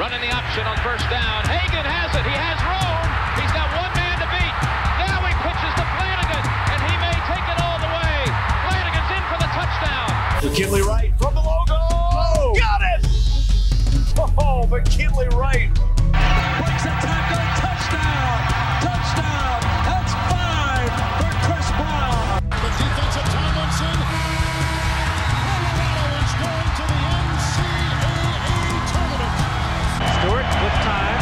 Running the option on first down. Hagan has it. He has room. He's got one man to beat. Now he pitches to Flanagan, and he may take it all the way. Flanagan's in for the touchdown. McKinley Wright from the logo. Oh, got it! Oh, McKinley Wright. Breaks a tackle. Touchdown. Touchdown. That's 5 for Chris Brown. The defensive Tomlinson. Colorado is going to the NCAA tournament. Stewart with time.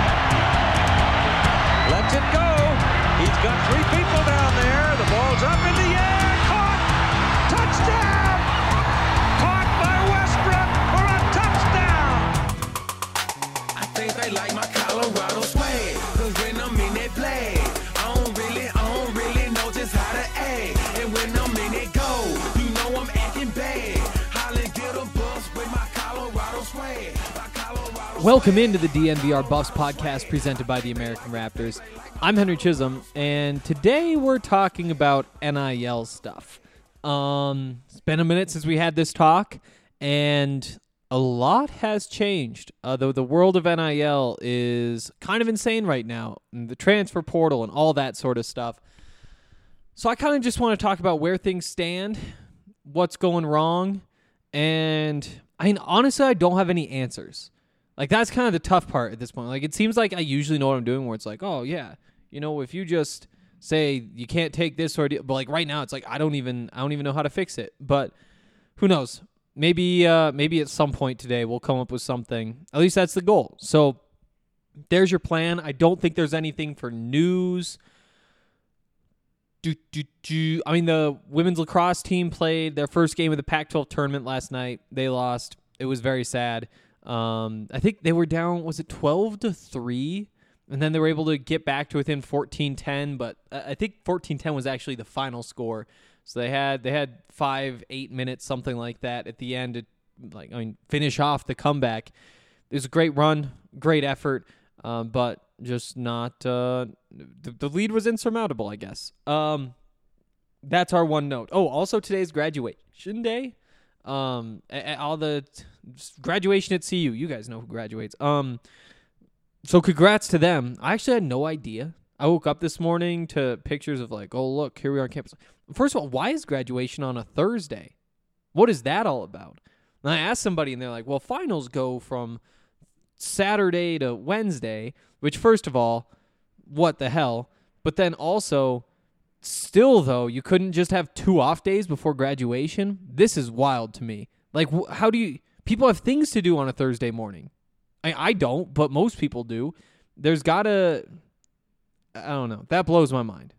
Lets it go. He's got 3 people down there. The ball's up in the air. Caught. Touchdown. Caught by Westbrook for a touchdown. I think they like my Colorado swag. Cause when I'm in that play, I don't really know just how to act. And when I'm in it go, you know I'm acting bad. Holly get a bus with my Colorado swag. Welcome into the DNVR Buffs podcast presented by the American Raptors. I'm Henry Chisholm, and today we're talking about NIL stuff. It's been a minute since we had this talk, and a lot has changed. Though the world of NIL is kind of insane right now, and the transfer portal and all that sort of stuff. So I kind of just want to talk about where things stand, what's going wrong, and honestly, I don't have any answers. Like, that's kind of the tough part at this point. Like, it seems like I usually know what I'm doing, where it's like, oh, yeah, you know, if you just say you can't take this or but like right now, it's like I don't even know how to fix it. But who knows? Maybe at some point today we'll come up with something. At least that's the goal. So there's your plan. I don't think there's anything for news. I mean, the women's lacrosse team played their first game of the Pac-12 tournament last night. They lost. It was very sad. I think they were down, was it 12-3? And then they were able to get back to within 14-10, but I think 14-10 was actually the final score. So they had 5-8 minutes, something like that at the end to finish off the comeback. It was a great run, great effort, but just not the lead was insurmountable, I guess. That's our one note. Oh, also today's graduation day. All the graduation at CU. You guys know who graduates. So congrats to them. I actually had no idea. I woke up this morning to pictures of like, oh, look, here we are on campus. First of all, why is graduation on a Thursday? What is that all about? And I asked somebody, and they're like, well, finals go from Saturday to Wednesday, which, first of all, what the hell? But then also, still, though, you couldn't just have 2 off days before graduation? This is wild to me. Like, how do you... People have things to do on a Thursday morning. I don't, but most people do. There's gotta... I don't know. That blows my mind.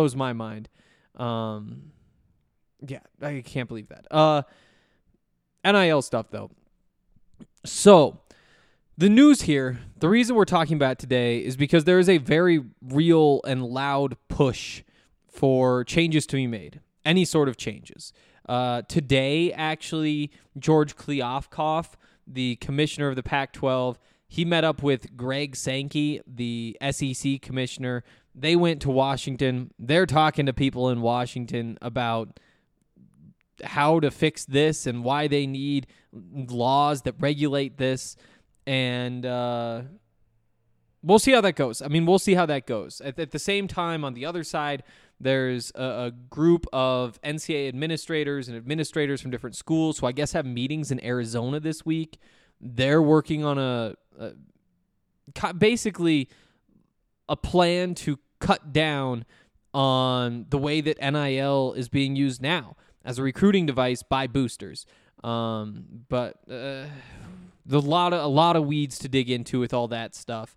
Yeah, I can't believe that. NIL stuff, though. So, the news here, the reason we're talking about it today is because there is a very real and loud push for changes to be made. Any sort of changes. Today, actually, George Kliavkoff, the commissioner of the Pac-12, he met up with Greg Sankey, the SEC commissioner. They went to Washington. They're talking to people in Washington about how to fix this and why they need laws that regulate this. And we'll see how that goes. At the same time, on the other side, there's a group of NCAA administrators and administrators from different schools who I guess have meetings in Arizona this week. They're working on basically a plan to cut down on the way that NIL is being used now as a recruiting device by boosters. But a lot of weeds to dig into with all that stuff.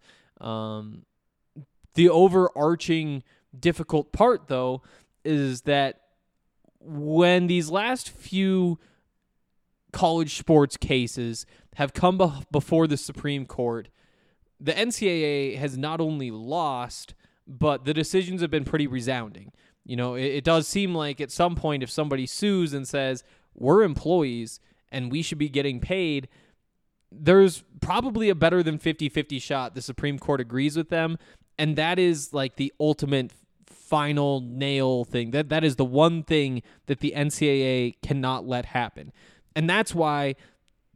The overarching difficult part, though, is that when these last few college sports cases have come before the Supreme Court, the NCAA has not only lost, but the decisions have been pretty resounding. You know, it does seem like at some point if somebody sues and says, we're employees and we should be getting paid, there's probably a better than 50-50 shot the Supreme Court agrees with them, and that is like the ultimate final nail thing. That is the one thing that the NCAA cannot let happen. And that's why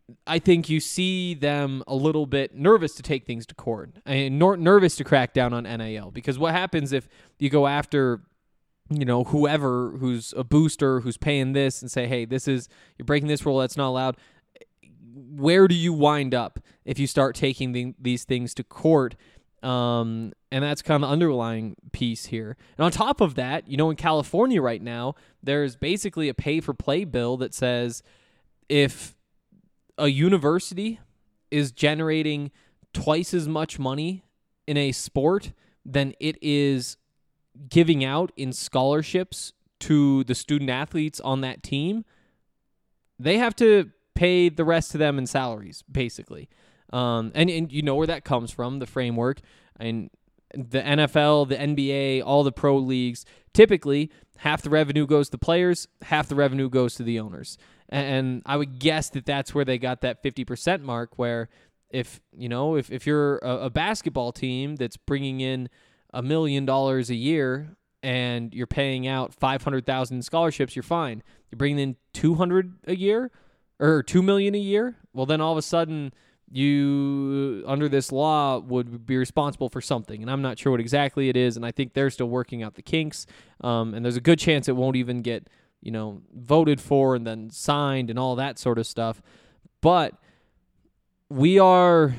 I think you see them a little bit nervous to take things to court and nervous to crack down on NIL, because what happens if you go after, whoever who's a booster who's paying this and say, hey, you're breaking this rule, that's not allowed. Where do you wind up if you start taking these things to court? And that's kind of the underlying piece here. And on top of that, in California right now, there's basically a pay-for-play bill that says if a university is generating twice as much money in a sport than it is giving out in scholarships to the student athletes on that team, they have to pay the rest of them in salaries, basically. And you know where that comes from, the framework. And the NFL, the NBA, all the pro leagues, typically half the revenue goes to the players, half the revenue goes to the owners. And I would guess that that's where they got that 50% mark, where if you're a basketball team that's bringing in $1 million a year and you're paying out $500,000 in scholarships, you're fine. You're bringing in $200 a year or $2 million a year. Well, then all of a sudden you, under this law, would be responsible for something, and I'm not sure what exactly it is. And I think they're still working out the kinks. And there's a good chance it won't even get voted for and then signed and all that sort of stuff. But we are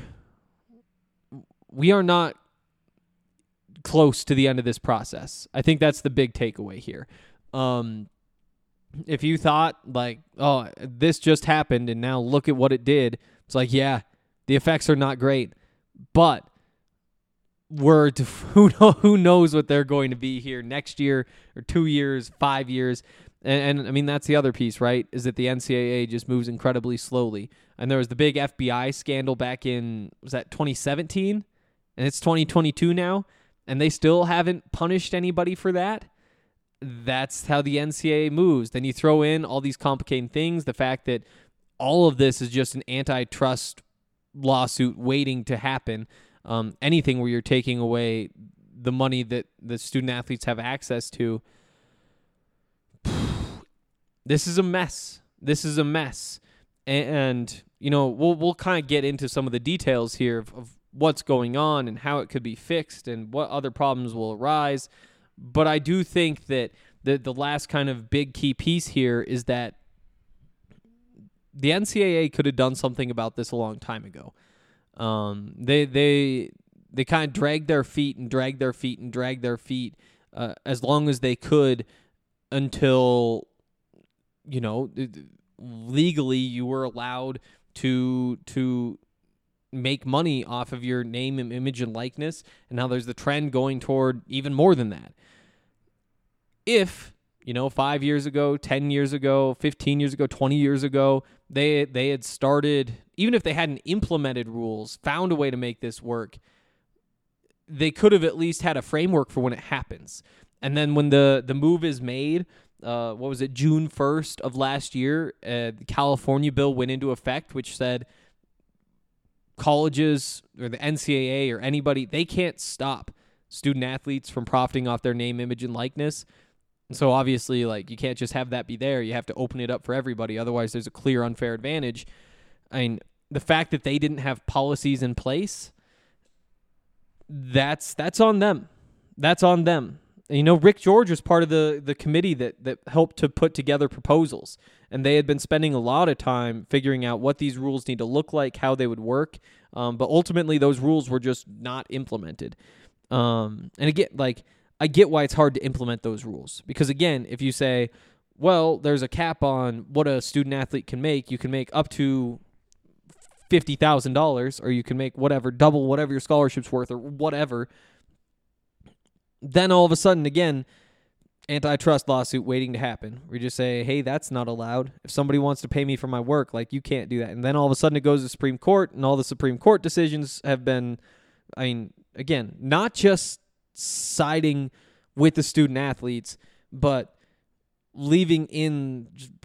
not close to the end of this process. I think that's the big takeaway here. If you thought like, oh, this just happened and now look at what it did, it's like, yeah, the effects are not great, but who knows what they're going to be here next year or 2 years, 5 years. And I mean, that's the other piece, right, is that the NCAA just moves incredibly slowly. And there was the big FBI scandal back in, was that 2017? And it's 2022 now, and they still haven't punished anybody for that. That's how the NCAA moves. Then you throw in all these complicating things, the fact that all of this is just an antitrust lawsuit waiting to happen. Anything where you're taking away the money that the student athletes have access to. This is a mess. And we'll kind of get into some of the details here of what's going on and how it could be fixed and what other problems will arise. But I do think that the last kind of big key piece here is that the NCAA could have done something about this a long time ago. They kind of dragged their feet as long as they could until legally you were allowed to make money off of your name and image and likeness. And now there's the trend going toward even more than that. If 5 years ago, 10 years ago, 15 years ago, 20 years ago, they had started, even if they hadn't implemented rules, found a way to make this work, they could have at least had a framework for when it happens. And then when the move is made, June 1st of last year, the California bill went into effect, which said colleges or the NCAA or anybody, they can't stop student athletes from profiting off their name, image, and likeness. And so obviously, you can't just have that be there. You have to open it up for everybody. Otherwise, there's a clear unfair advantage. I mean, the fact that they didn't have policies in place, that's on them. That's on them. And, Rick George was part of the committee that helped to put together proposals. And they had been spending a lot of time figuring out what these rules need to look like, how they would work. But ultimately, those rules were just not implemented. And again, I get why it's hard to implement those rules. Because again, if you say, well, there's a cap on what a student athlete can make, you can make up to $50,000, or you can make double whatever your scholarship's worth, or whatever. Then all of a sudden, again, antitrust lawsuit waiting to happen. We just say, hey, that's not allowed. If somebody wants to pay me for my work, you can't do that. And then all of a sudden it goes to the Supreme Court, and all the Supreme Court decisions have been, again, not just siding with the student athletes, but leaving in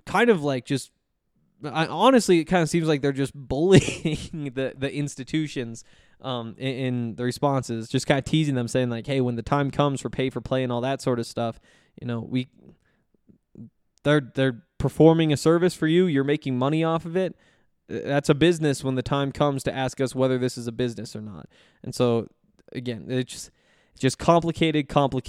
honestly, it kind of seems like they're just bullying the institutions in the responses, just kind of teasing them, saying hey, when the time comes for pay for play and all that sort of stuff, they're performing a service for you. You're making money off of it. That's a business when the time comes to ask us whether this is a business or not. And so, again, it's just complicated.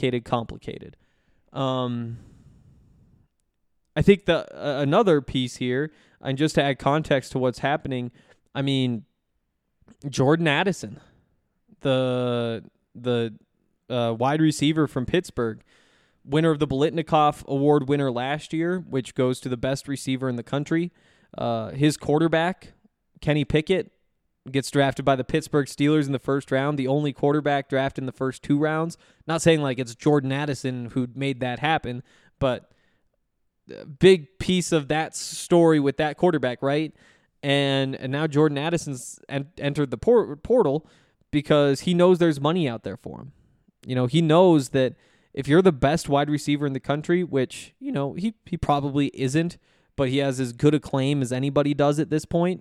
I think another piece here, and just to add context to what's happening, I mean, Jordan Addison, the wide receiver from Pittsburgh, winner of the Biletnikoff Award winner last year, which goes to the best receiver in the country. His quarterback, Kenny Pickett, gets drafted by the Pittsburgh Steelers in the first round, the only quarterback drafted in the first 2 rounds. Not saying like it's Jordan Addison who made that happen, but a big piece of that story with that quarterback, right? And now Jordan Addison's entered the portal because he knows there's money out there for him. He knows that if you're the best wide receiver in the country, which, he probably isn't, but he has as good a claim as anybody does at this point,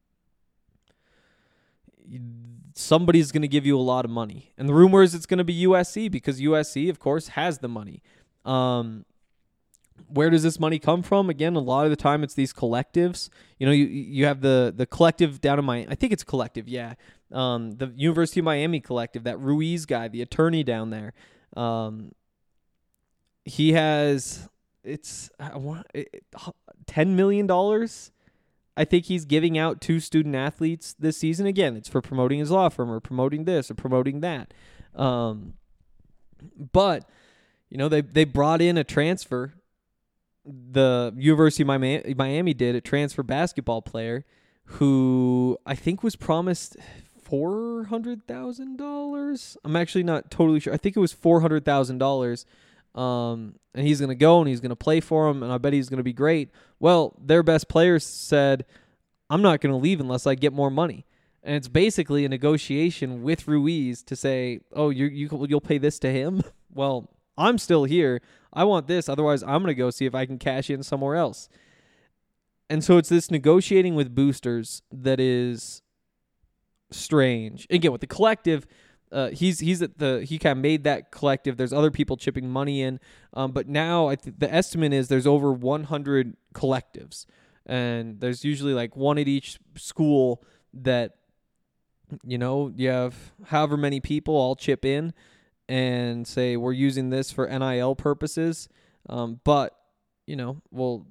somebody's going to give you a lot of money. And the rumor is it's going to be USC because USC, of course, has the money. Where does this money come from? Again, a lot of the time it's these collectives. You have the collective down in Miami. I think it's collective, yeah. The University of Miami collective, that Ruiz guy, the attorney down there. He has, $10 million, I think he's giving out to student athletes this season. Again, it's for promoting his law firm or promoting this or promoting that. But, they brought in a transfer. The University of Miami did, a transfer basketball player who I think was promised $400,000. I'm actually not totally sure. I think it was $400,000. And he's going to go and he's going to play for him, and I bet he's going to be great. Well, their best players said, I'm not going to leave unless I get more money. And it's basically a negotiation with Ruiz to say, oh, you'll pay this to him? Well, I'm still here. I want this. Otherwise, I'm going to go see if I can cash in somewhere else. And so it's this negotiating with boosters that is strange. Again, with the collective, he kind of made that collective. There's other people chipping money in, but now the estimate is there's over 100 collectives, and there's usually like one at each school that you have however many people all chip in and say we're using this for NIL purposes, but we'll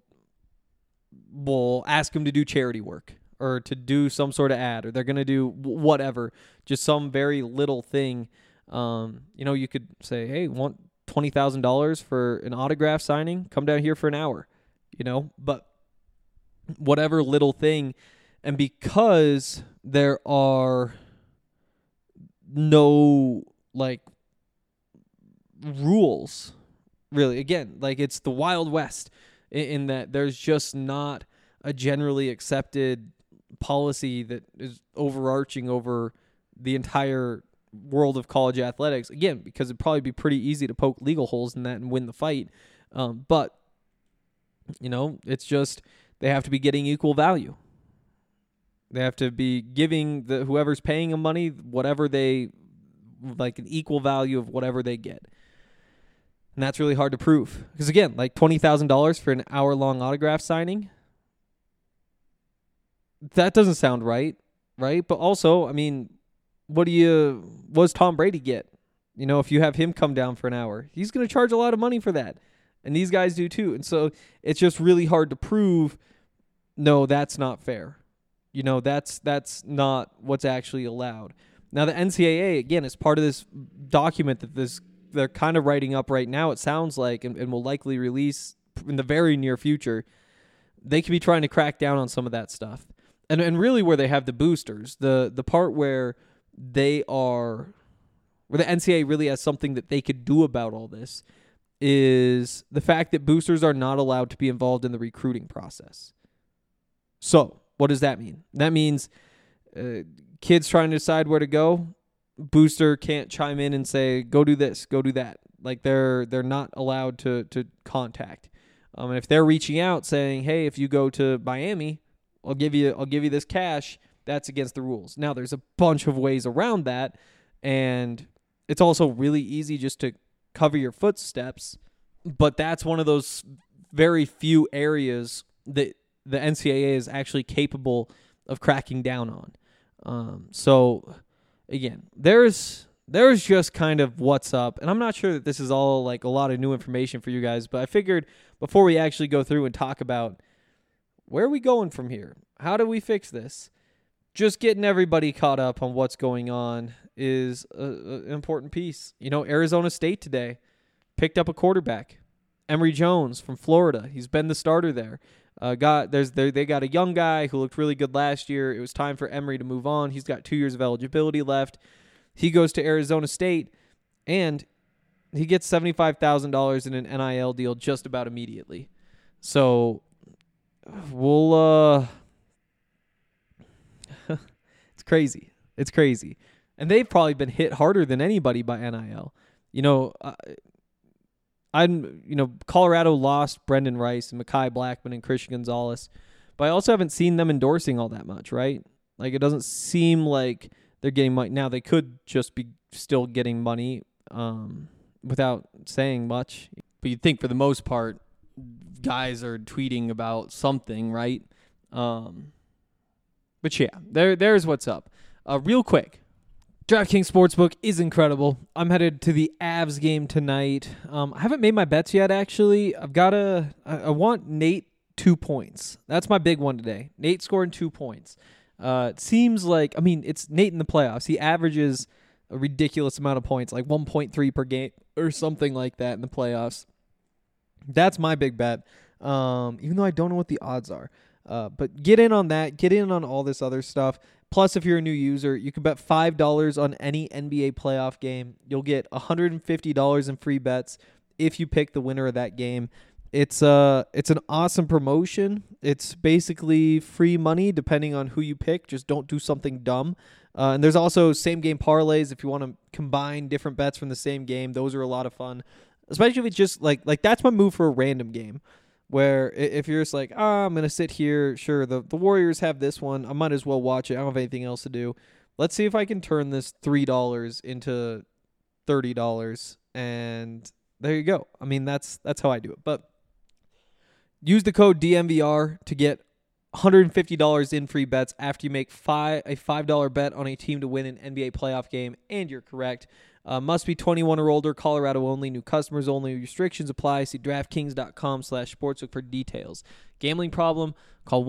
ask them to do charity work or to do some sort of ad, or they're going to do whatever, just some very little thing. You could say, hey, want $20,000 for an autograph signing? Come down here for an hour, but whatever little thing. And because there are no rules, really, again, it's the Wild West in that there's just not a generally accepted policy that is overarching over the entire world of college athletics. Again, because it'd probably be pretty easy to poke legal holes in that and win the fight. But it's just they have to be getting equal value. They have to be giving whoever's paying them money whatever they an equal value of whatever they get. And that's really hard to prove. Because again, $20,000 for an hour-long autograph signing, that doesn't sound right? But also, I mean, what does Tom Brady get? If you have him come down for an hour, he's going to charge a lot of money for that. And these guys do too. And so it's just really hard to prove, no, that's not fair. That's not what's actually allowed. Now, the NCAA, again, is part of this document that they're kind of writing up right now, it sounds like, and will likely release in the very near future. They could be trying to crack down on some of that stuff. And really where they have the boosters, the part where the NCAA really has something that they could do about all this is the fact that boosters are not allowed to be involved in the recruiting process. So what does that mean? That means kids trying to decide where to go, booster can't chime in and say, go do this, go do that. They're not allowed to contact. And if they're reaching out saying, hey, if you go to Miami, I'll give you this cash, that's against the rules. Now, there's a bunch of ways around that, and it's also really easy just to cover your footsteps, but that's one of those very few areas that the NCAA is actually capable of cracking down on. So again, there's just kind of what's up, and I'm not sure that this is all like a lot of new information for you guys, but I figured before we actually go through and talk about where are we going from here, how do we fix this, just getting everybody caught up on what's going on is an important piece. Arizona State today picked up a quarterback, Emory Jones from Florida. He's been the starter there. They got a young guy who looked really good last year. It was time for Emory to move on. He's got 2 years of eligibility left. He goes to Arizona State, and he gets $75,000 in an NIL deal just about immediately. So we'll it's crazy. It's crazy. And they've probably been hit harder than anybody by NIL. Colorado lost Brendan Rice and Mekhi Blackman and Christian Gonzalez, but I also haven't seen them endorsing all that much, right? Like, it doesn't seem like they're getting money. Now, they could just be still getting money without saying much. But you'd think for the most part, guys are tweeting about something, right? But yeah, there's what's up. Real quick, DraftKings Sportsbook is incredible. I'm headed to the Avs game tonight. I haven't made my bets yet, actually. I want Nate 2 points. That's my big one today. Nate scoring 2 points. It seems like, it's Nate in the playoffs. He averages a ridiculous amount of points, like 1.3 per game or something like that in the playoffs. That's my big bet, even though I don't know what the odds are. But get in on that. Get in on all this other stuff. Plus, if you're a new user, you can bet $5 on any NBA playoff game. You'll get $150 in free bets if you pick the winner of that game. It's an awesome promotion. It's basically free money depending on who you pick. Just don't do something dumb. And there's also same game parlays if you want to combine different bets from the same game. Those are a lot of fun, especially if it's just like that's my move for a random game. Where if you're just like, I'm going to sit here, sure, the Warriors have this one. I might as well watch it. I don't have anything else to do. Let's see if I can turn this $3 into $30. And there you go. That's how I do it. But use the code DMVR to get $150 in free bets after you make a $5 bet on a team to win an NBA playoff game, and you're correct. Must be 21 or older, Colorado only, new customers only, restrictions apply. See DraftKings.com/sportsbook for details. Gambling problem? Call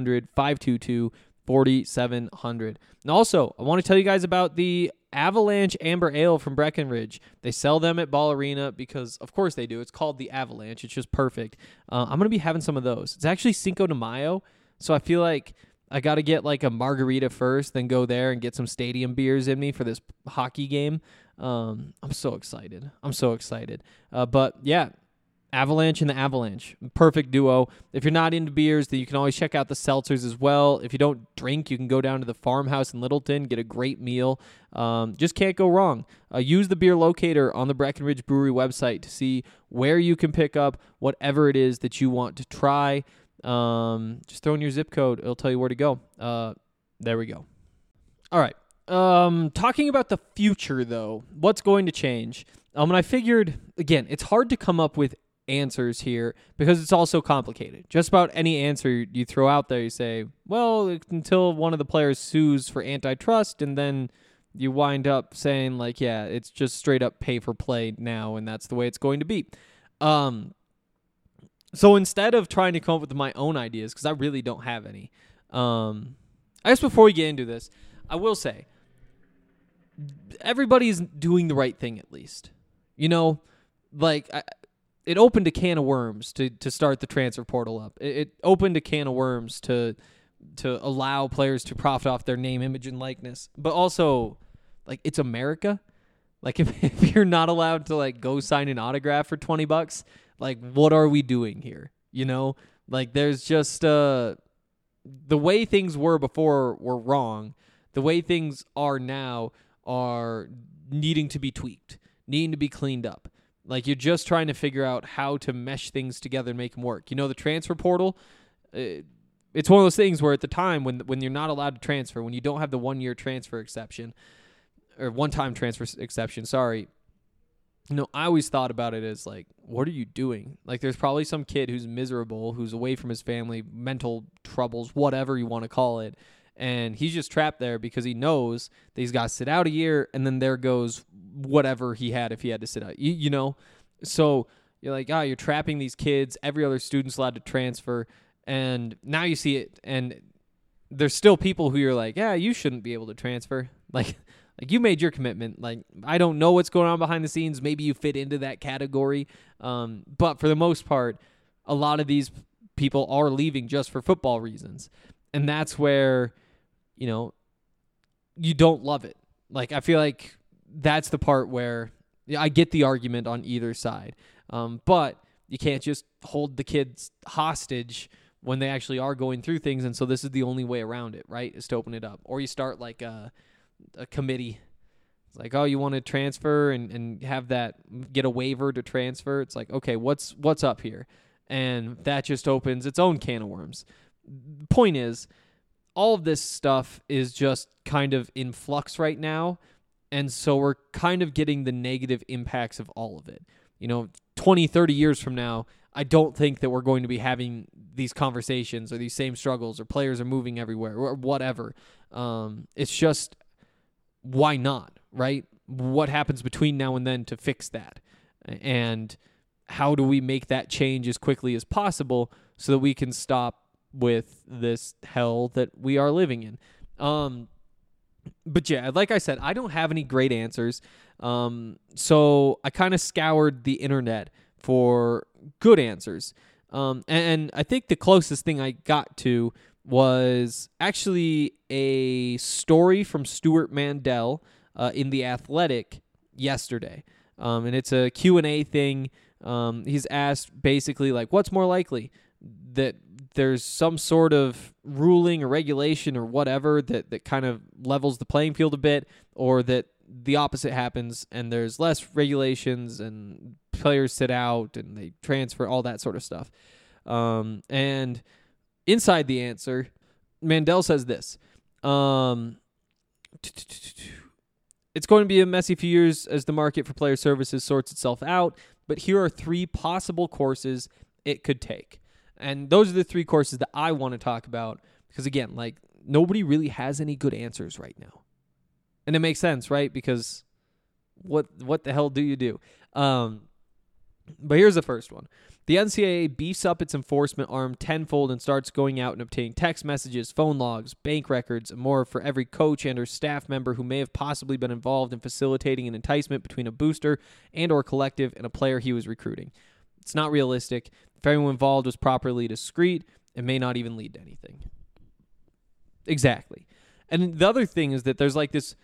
1-800-522-4700. And also, I want to tell you guys about the Avalanche Amber Ale from Breckenridge. They sell them at Ball Arena because, of course they do. It's called the Avalanche. It's just perfect. I'm going to be having some of those. It's actually Cinco de Mayo, so I feel like I got to get like a margarita first, then go there and get some stadium beers in me for this hockey game. I'm so excited. But yeah, Avalanche and the Avalanche, perfect duo. If you're not into beers, then you can always check out the seltzers as well. If you don't drink, you can go down to the Farmhouse in Littleton, get a great meal. Just can't go wrong. Use the beer locator on the Breckenridge Brewery website to see where you can pick up whatever it is that you want to try. Just throw in your zip code. It'll tell you where to go. There we go. All right. Talking about the future, though, what's going to change? And I figured, again, it's hard to come up with answers here because it's all so complicated. Just about any answer you throw out there, you say, well, until one of the players sues for antitrust, and then you wind up saying, like, yeah, it's just straight up pay for play now, and that's the way it's going to be. So instead of trying to come up with my own ideas, because I really don't have any, I guess before we get into this, I will say, everybody's doing the right thing at least. It opened a can of worms to start the transfer portal up. It opened a can of worms to allow players to profit off their name, image, and likeness. But also, it's America. If you're not allowed to go sign an autograph for $20, what are we doing here? There's just the way things were before were wrong. The way things are now are needing to be tweaked, needing to be cleaned up. You're just trying to figure out how to mesh things together and make them work. The transfer portal, it's one of those things where at the time when you're not allowed to transfer, when you don't have the 1-year transfer exception, or one-time transfer exception, sorry, I always thought about it as what are you doing? There's probably some kid who's miserable, who's away from his family, mental troubles, whatever you want to call it, And he's just trapped there because he knows that he's got to sit out a year, and then there goes whatever he had if he had to sit out. You know? So you're like, you're trapping these kids. Every other student's allowed to transfer. And now you see it, and there's still people who you're like, yeah, you shouldn't be able to transfer. Like you made your commitment. Like, I don't know what's going on behind the scenes. Maybe you fit into that category. But for the most part, a lot of these people are leaving just for football reasons. And that's where, you don't love it. Like, I feel like that's the part where I get the argument on either side. But you can't just hold the kids hostage when they actually are going through things. And so this is the only way around it, right, is to open it up. Or you start like a committee. It's like, you want to transfer and have that, get a waiver to transfer. It's like, okay, what's up here? And that just opens its own can of worms. The point is, all of this stuff is just kind of in flux right now. And so we're kind of getting the negative impacts of all of it. 20, 30 years from now, I don't think that we're going to be having these conversations or these same struggles or players are moving everywhere or whatever. It's just, why not, right? What happens between now and then to fix that? And how do we make that change as quickly as possible so that we can stop with this hell that we are living in? But yeah, like I said, I don't have any great answers. So I kind of scoured the internet for good answers. And I think the closest thing I got to was actually a story from Stuart Mandel in The Athletic yesterday. And it's a Q&A thing. He's asked basically like, what's more likely, that there's some sort of ruling or regulation or whatever that kind of levels the playing field a bit, or that the opposite happens and there's less regulations and players sit out and they transfer, all that sort of stuff. And inside the answer, Mandel says this. It's going to be a messy few years as the market for player services sorts itself out, but here are 3 possible courses it could take. And those are the 3 courses that I want to talk about because, again, like, nobody really has any good answers right now. And it makes sense, right? Because what the hell do you do? But here's the first one. The NCAA beefs up its enforcement arm tenfold and starts going out and obtaining text messages, phone logs, bank records, and more for every coach and or staff member who may have possibly been involved in facilitating an enticement between a booster and or collective and a player he was recruiting. It's not realistic. If everyone involved was properly discreet, it may not even lead to anything. Exactly. And the other thing is that there's like this,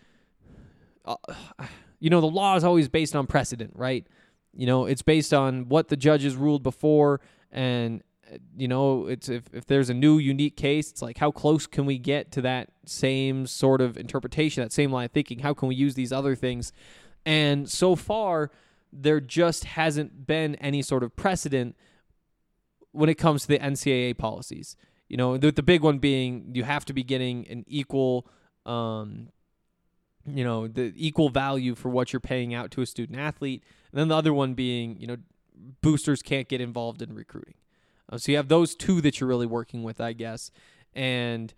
the law is always based on precedent, right? It's based on what the judges ruled before, and, it's if there's a new unique case, it's like, how close can we get to that same sort of interpretation, that same line of thinking? How can we use these other things? And so far, there just hasn't been any sort of precedent when it comes to the NCAA policies. The big one being you have to be getting an equal, the equal value for what you're paying out to a student athlete. And then the other one being, boosters can't get involved in recruiting. So you have those 2 that you're really working with, I guess. And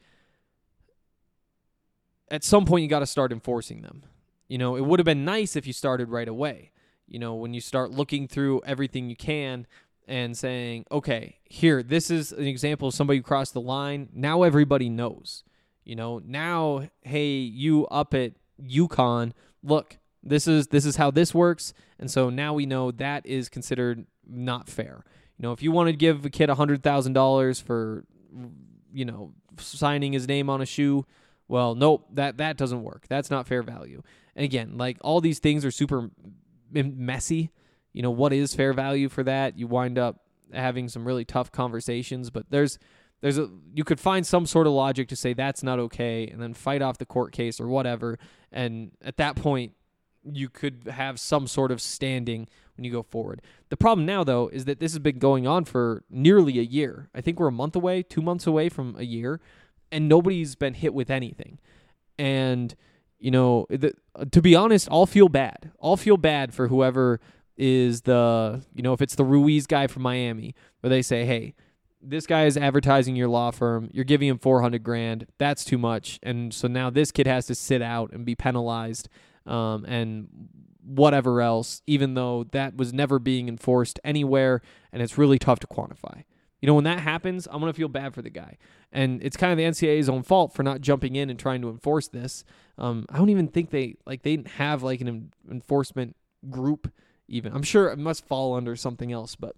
at some point you got to start enforcing them. It would have been nice if you started right away. When you start looking through everything you can and saying, okay, here, this is an example of somebody who crossed the line. Now everybody knows. Now, hey, you up at UConn, look, this is how this works. And so now we know that is considered not fair. If you want to give a kid $100,000 for, signing his name on a shoe, well, nope, that doesn't work. That's not fair value. And again, like, all these things are super messy. What is fair value for that? You wind up having some really tough conversations, but you could find some sort of logic to say that's not okay and then fight off the court case or whatever. And at that point, you could have some sort of standing when you go forward. The problem now, though, is that this has been going on for nearly a year. I think we're a month away, 2 months away from a year, and nobody's been hit with anything. And, to be honest, I'll feel bad. I'll feel bad for whoever is if it's the Ruiz guy from Miami, where they say, hey, this guy is advertising your law firm. You're giving him $400,000. That's too much. And so now this kid has to sit out and be penalized and whatever else, even though that was never being enforced anywhere, and it's really tough to quantify. When that happens, I'm going to feel bad for the guy. And it's kind of the NCAA's own fault for not jumping in and trying to enforce this. I don't even think they didn't have like an enforcement group even. I'm sure it must fall under something else, but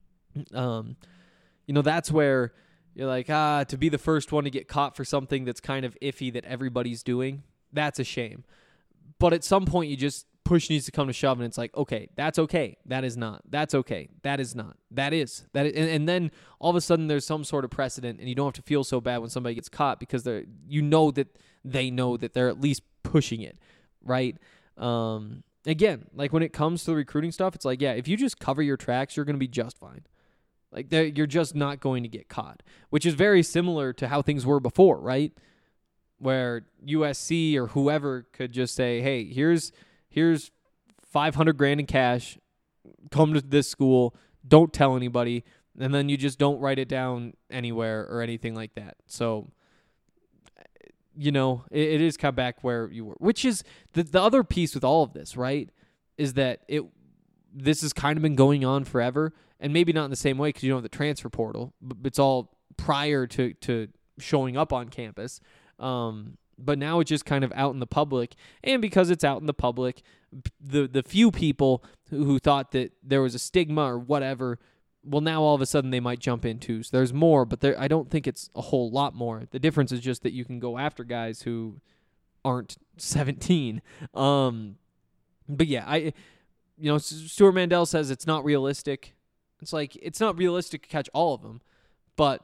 that's where you're like, to be the first one to get caught for something that's kind of iffy that everybody's doing, that's a shame. But at some point, push needs to come to shove, and it's like, okay, that's okay. That is not. That's okay. That is not. That is. And then all of a sudden there's some sort of precedent, and you don't have to feel so bad when somebody gets caught because that they know that they're at least pushing it, right? Again, like when it comes to the recruiting stuff, it's like, yeah, if you just cover your tracks, you're going to be just fine. Like you're just not going to get caught, which is very similar to how things were before, right? Where USC or whoever could just say, hey, here's $500,000 in cash. Come to this school. Don't tell anybody. And then you just don't write it down anywhere or anything like that. So, it is kind of back where you were, which is the other piece with all of this, right? Is that this has kind of been going on forever, and maybe not in the same way because you don't have the transfer portal, but it's all prior to showing up on campus. But now it's just kind of out in the public, and because it's out in the public, the few people who thought that there was a stigma or whatever, well, now all of a sudden they might jump in too. So there's more, but I don't think it's a whole lot more. The difference is just that you can go after guys who aren't 17. But yeah, Stuart Mandel says it's not realistic. It's like, it's not realistic to catch all of them, but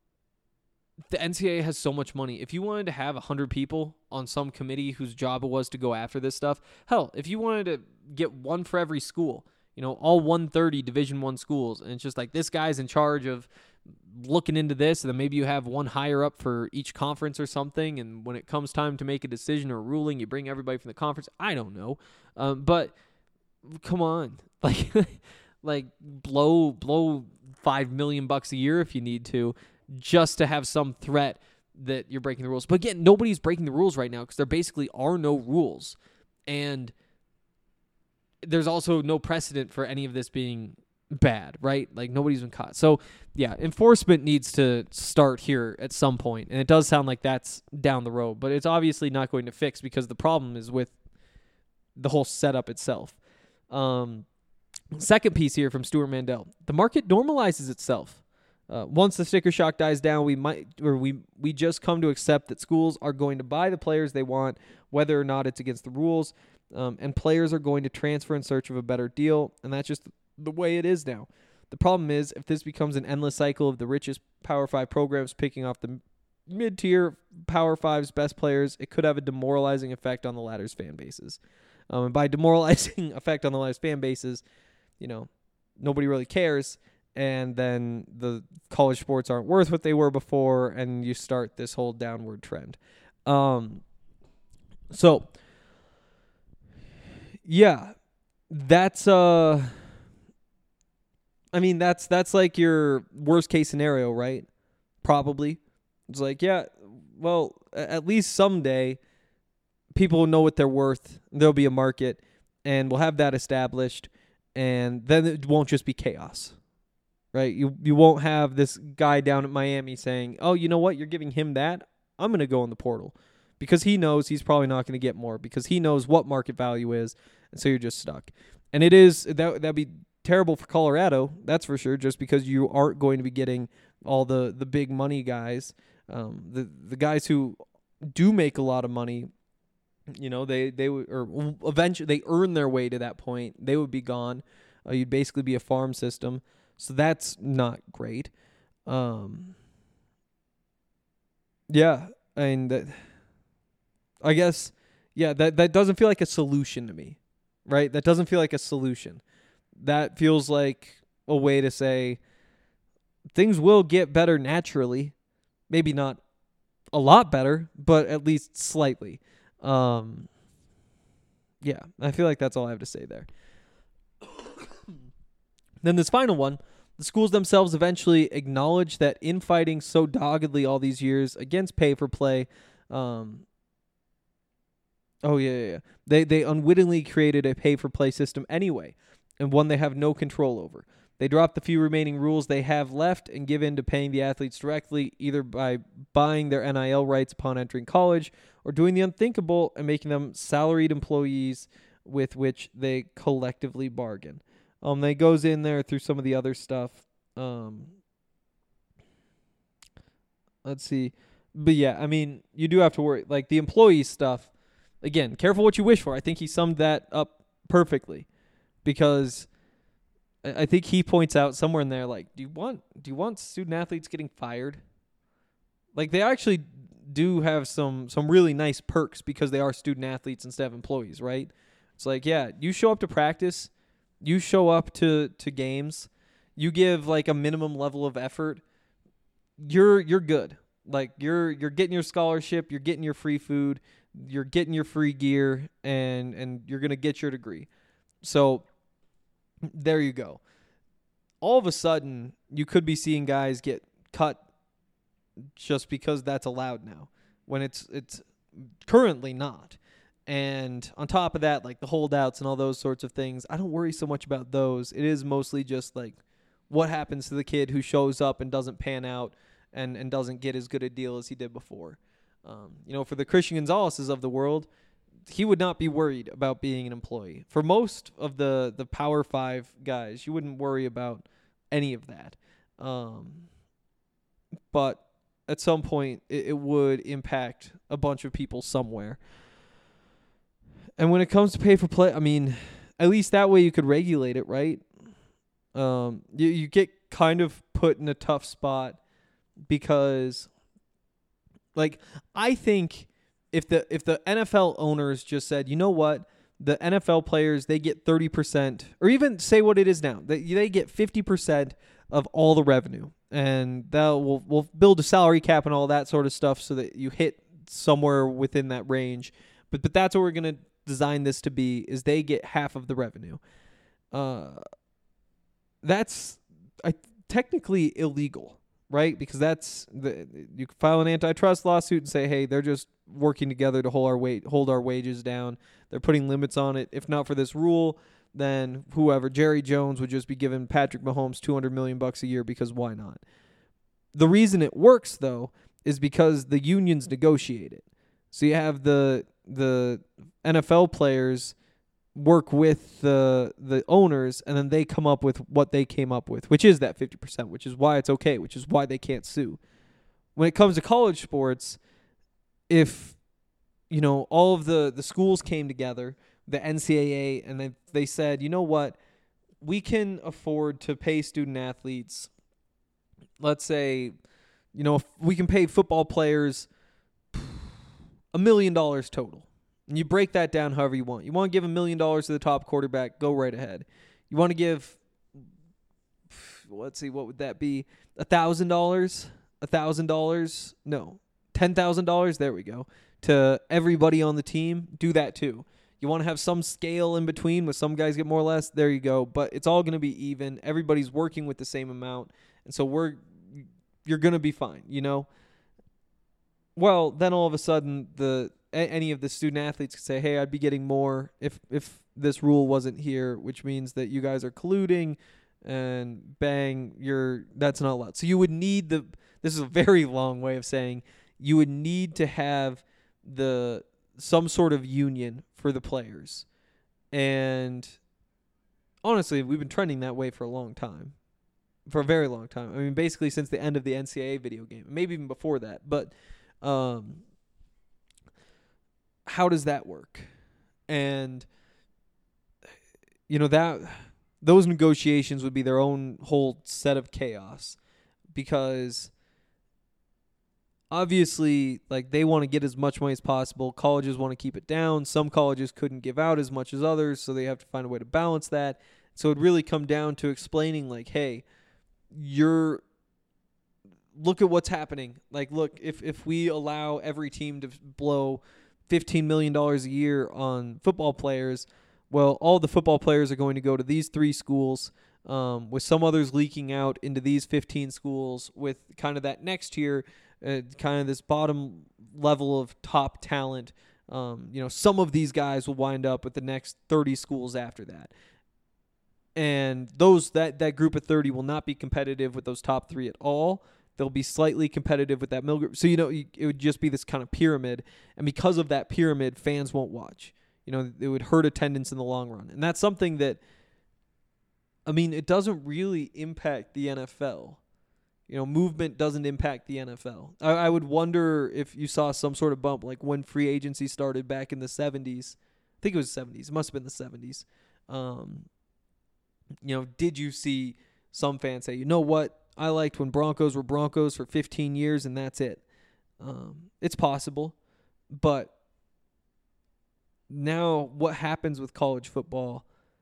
the NCAA has so much money. If you wanted to have 100 people on some committee whose job it was to go after this stuff, hell, if you wanted to get one for every school, all 130 Division I schools, and it's just like this guy's in charge of looking into this, and then maybe you have one higher up for each conference or something, and when it comes time to make a decision or a ruling, you bring everybody from the conference. I don't know. But come on. Like blow $5 million a year if you need to, just to have some threat that you're breaking the rules. But again, nobody's breaking the rules right now because there basically are no rules. And there's also no precedent for any of this being bad, right? Like nobody's been caught. So yeah, enforcement needs to start here at some point. And it does sound like that's down the road, but it's obviously not going to fix because the problem is with the whole setup itself. Second piece here from Stuart Mandel. The market normalizes itself. Once the sticker shock dies down, we just come to accept that schools are going to buy the players they want, whether or not it's against the rules, and players are going to transfer in search of a better deal, and that's just the way it is now. The problem is, if this becomes an endless cycle of the richest Power 5 programs picking off the mid-tier Power 5's best players, it could have a demoralizing effect on the latter's fan bases. And by demoralizing effect on the latter's fan bases, nobody really cares, and then the college sports aren't worth what they were before, and you start this whole downward trend. So, yeah, that's that's like your worst case scenario, right? Probably. It's like, yeah, well, at least someday people will know what they're worth. There'll be a market, and we'll have that established, and then it won't just be chaos, right? You won't have this guy down at Miami saying, oh, you know what? You're giving him that? I'm going to go in the portal. Because he knows he's probably not going to get more, because he knows what market value is, and so you're just stuck. And it is that'd be terrible for Colorado, that's for sure, just because you aren't going to be getting all the big money guys. The guys who do make a lot of money, they would, or eventually they earn their way to that point. They would be gone. You'd basically be a farm system, so that's not great. Yeah, and I guess, yeah, that doesn't feel like a solution to me, right? That doesn't feel like a solution. That feels like a way to say things will get better naturally. Maybe not a lot better, but at least slightly. Yeah, I feel like that's all I have to say there. Then this final one, The schools themselves eventually acknowledged that infighting so doggedly all these years against pay-for-play, They unwittingly created a pay-for-play system anyway, and one they have no control over. They dropped the few remaining rules they have left and give in to paying the athletes directly, either by buying their NIL rights upon entering college or doing the unthinkable and making them salaried employees with which they collectively bargain. They goes in there through some of the other stuff. Let's see. But yeah, I mean, you do have to worry. Like the employee stuff, again, careful what you wish for. I think he summed that up perfectly, because I think he points out somewhere in there, like, do you want student athletes getting fired? Like, they actually do have some really nice perks because they are student athletes instead of employees, right? It's like, yeah, you show up to practice, you show up to games, you give like a minimum level of effort, you're good. Like you're getting your scholarship, you're getting your free food, you're getting your free gear, and you're gonna get your degree. So there you go. All of a sudden, you could be seeing guys get cut just because that's allowed now, when it's currently not. And on top of that, like the holdouts and all those sorts of things, I don't worry so much about those. It is mostly just like what happens to the kid who shows up and doesn't pan out and doesn't get as good a deal as he did before. For the Christian Gonzalez's of the world, he would not be worried about being an employee. For most of the Power 5 guys, you wouldn't worry about any of that. But at some point, it would impact a bunch of people somewhere. And when it comes to pay for play, I mean, at least that way you could regulate it, right? You get kind of put in a tough spot because, like, I think if the NFL owners just said, you know what, the NFL players, they get 30%, or even say what it is now, they get 50% of all the revenue, and we'll build a salary cap and all that sort of stuff so that you hit somewhere within that range. But that's what we're gonna design this to be, is they get half of the revenue. That's technically illegal, right? Because you can file an antitrust lawsuit and say, hey, they're just working together to hold our wages down. They're putting limits on it. If not for this rule, then Jerry Jones would just be giving Patrick Mahomes $200 million a year, because why not? The reason it works, though, is because the unions negotiate it. So you have the NFL players work with the owners, and then they come up with what they came up with, which is that 50%, which is why it's okay, which is why they can't sue. When it comes to college sports, if all of the schools came together, the NCAA, and they said, you know what, we can afford to pay student athletes, let's say, if we can pay football players $1 million total. And you break that down however you want. You want to give $1 million to the top quarterback, go right ahead. You want to give, let's see, what would that be? $1,000? $1,000? No. $10,000? There we go. To everybody on the team, do that too. You want to have some scale in between with some guys get more or less, there you go. But it's all going to be even. Everybody's working with the same amount. And so you're going to be fine, Well, then all of a sudden, any of the student athletes could say, hey, I'd be getting more if this rule wasn't here, which means that you guys are colluding, and bang, that's not allowed. So you would need this is a very long way of saying you would need to have some sort of union for the players. And honestly, we've been trending that way for a long time. For a very long time. I mean, basically since the end of the NCAA video game, maybe even before that. But how does that work? And those negotiations would be their own whole set of chaos, because obviously, like, they want to get as much money as possible. Colleges want to keep it down. Some colleges couldn't give out as much as others, so they have to find a way to balance that. So it'd really come down to explaining, like, hey, look at what's happening. Like, look, if we allow every team to blow $15 million a year on football players, well, all the football players are going to go to these 3 schools. with some others leaking out into these 15 schools, with kind of that next tier, kind of this bottom level of top talent. Some of these guys will wind up with the next 30 schools after that. And that group of 30 will not be competitive with those top 3 at all. They'll be slightly competitive with that middle group. So, it would just be this kind of pyramid. And because of that pyramid, fans won't watch. It would hurt attendance in the long run. And that's something that, it doesn't really impact the NFL. Movement doesn't impact the NFL. I would wonder if you saw some sort of bump, like when free agency started back in the 70s. I think it was the 70s. It must have been the 70s. Did you see some fans say, you know what? I liked when Broncos were Broncos for 15 years and that's it. It's possible. But now what happens with college football,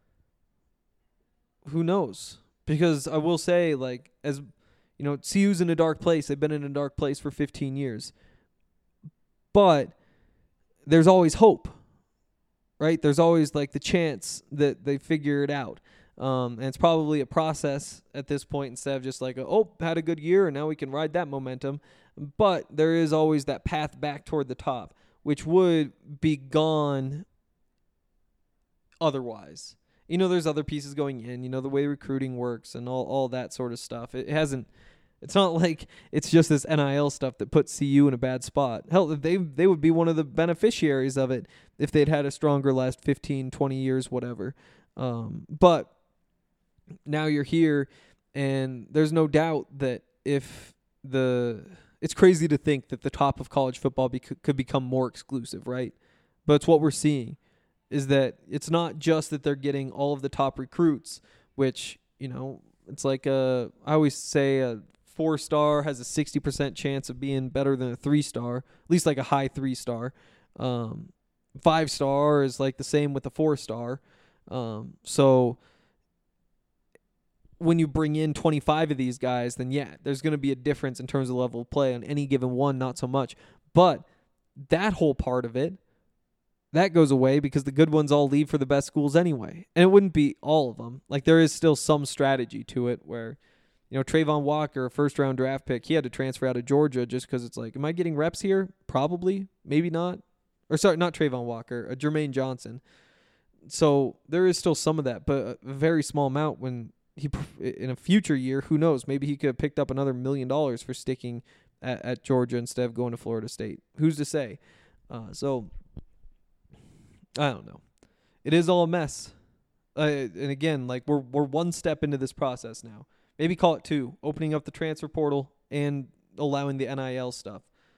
who knows? Because I will say, CU's in a dark place. They've been in a dark place for 15 years. But there's always hope, right? There's always the chance that they figure it out. And it's probably a process at this point instead of just had a good year and now we can ride that momentum. But there is always that path back toward the top, which would be gone otherwise. There's other pieces going in, the way recruiting works and all that sort of stuff. It's not like it's just this NIL stuff that puts CU in a bad spot. Hell, they would be one of the beneficiaries of it if they'd had a stronger last 15, 20 years, whatever. But now you're here, and there's no doubt that it's crazy to think that the top of college football could become more exclusive, right? But it's what we're seeing, is that it's not just that they're getting all of the top recruits, which, it's I always say a 4-star has a 60% chance of being better than a 3-star, at least a high 3-star. 5-star is the same with a 4-star. So when you bring in 25 of these guys, then there's going to be a difference in terms of level of play. On any given one, not so much. But that whole part of it, that goes away because the good ones all leave for the best schools anyway. And it wouldn't be all of them. There is still some strategy to it where, Trayvon Walker, a first-round draft pick, he had to transfer out of Georgia just because it's am I getting reps here? Probably. Maybe not. Or sorry, not Trayvon Walker, Jermaine Johnson. So there is still some of that, but a very small amount when in a future year, who knows? Maybe he could have picked up another $1 million for sticking at Georgia instead of going to Florida State. Who's to say? So I don't know. It is all a mess. And again, we're one step into this process now. Maybe call it 2, opening up the transfer portal and allowing the NIL stuff.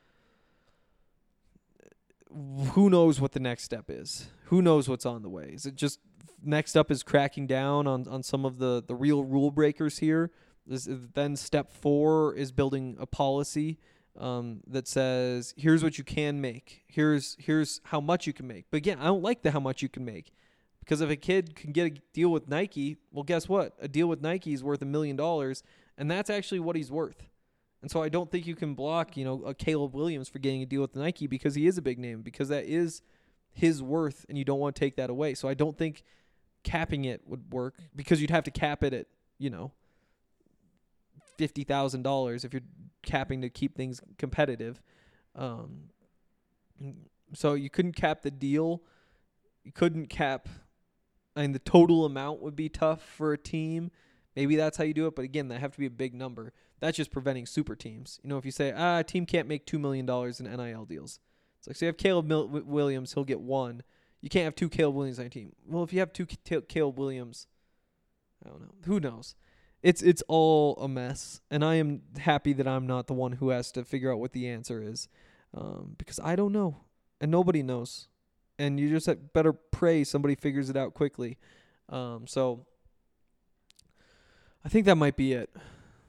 Who knows what the next step is? Who knows what's on the way? Is it just next up is cracking down on some of the real rule breakers here? Then step 4 is building a policy that says, here's what you can make. Here's how much you can make. But again, I don't like the how much you can make. Because if a kid can get a deal with Nike, well, guess what? A deal with Nike is worth $1 million, and that's actually what he's worth. And so I don't think you can block, a Caleb Williams for getting a deal with Nike because he is a big name, because that is his worth, and you don't want to take that away. So I don't think capping it would work, because you'd have to cap it at, $50,000 if you're capping to keep things competitive. So you couldn't cap the deal. You couldn't cap... the total amount would be tough for a team. Maybe that's how you do it. But again, that have to be a big number. That's just preventing super teams. If you say, a team can't make $2 million in NIL deals. It's so you have Caleb Williams, he'll get 1. You can't have 2 Caleb Williams on a team. Well, if you have 2 Caleb Williams, I don't know. Who knows? It's all a mess. And I am happy that I'm not the one who has to figure out what the answer is. Because I don't know. And nobody knows. And you just better pray somebody figures it out quickly. So I think that might be it.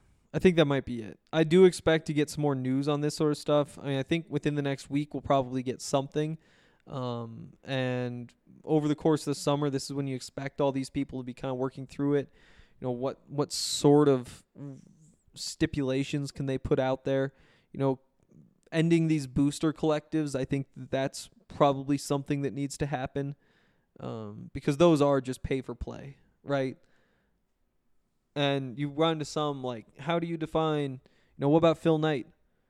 I do expect to get some more news on this sort of stuff. I think within the next week we'll probably get something. And over the course of the summer, this is when you expect all these people to be kind of working through it. What sort of stipulations can they put out there? Ending these booster collectives, I think that's probably something that needs to happen, because those are just pay for play, right? And you run to some, like, how do you define, what about Phil Knight?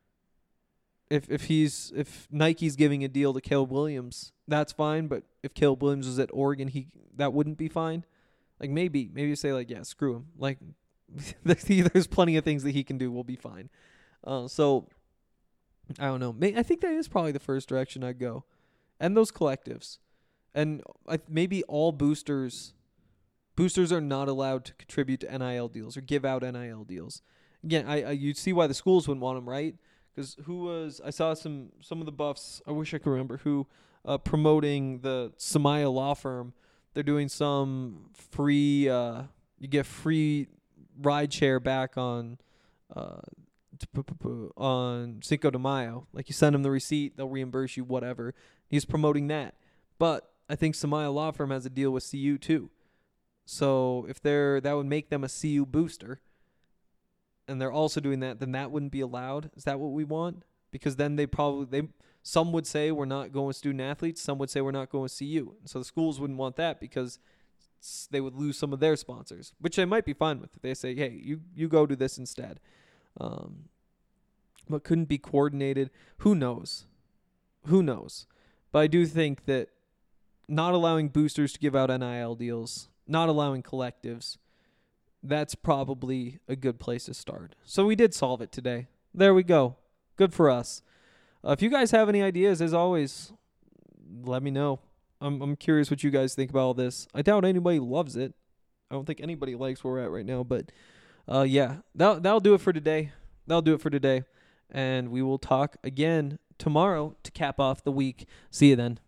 If Nike's giving a deal to Caleb Williams, that's fine. But if Caleb Williams was at Oregon, that wouldn't be fine. Like, maybe you say, like, yeah, screw him. Like, there's plenty of things that he can do. We'll be fine. So I don't know. I think that is probably the first direction I'd go. And those collectives. And maybe all boosters are not allowed to contribute to NIL deals or give out NIL deals. Again, you see why the schools wouldn't want them, right? Because I saw some of the buffs, I wish I could remember who, promoting the Samaya law firm. They're doing some free, you get free ride share back on Cinco de Mayo. Like, you send them the receipt, they'll reimburse you, whatever. He's promoting that. But I think Samaya law firm has a deal with CU too. So if that would make them a CU booster, and they're also doing that, then that wouldn't be allowed. Is that what we want? Because then some would say we're not going with student athletes, some would say we're not going with CU. So the schools wouldn't want that because they would lose some of their sponsors, which they might be fine with. If they say, hey, you go do this instead. But couldn't be coordinated. Who knows? But I do think that not allowing boosters to give out NIL deals, not allowing collectives, that's probably a good place to start. So we did solve it today. There we go. Good for us. If you guys have any ideas, as always, let me know. I'm curious what you guys think about all this. I doubt anybody loves it. I don't think anybody likes where we're at right now. But, yeah, that'll do it for today. And we will talk again tomorrow to cap off the week. See you then.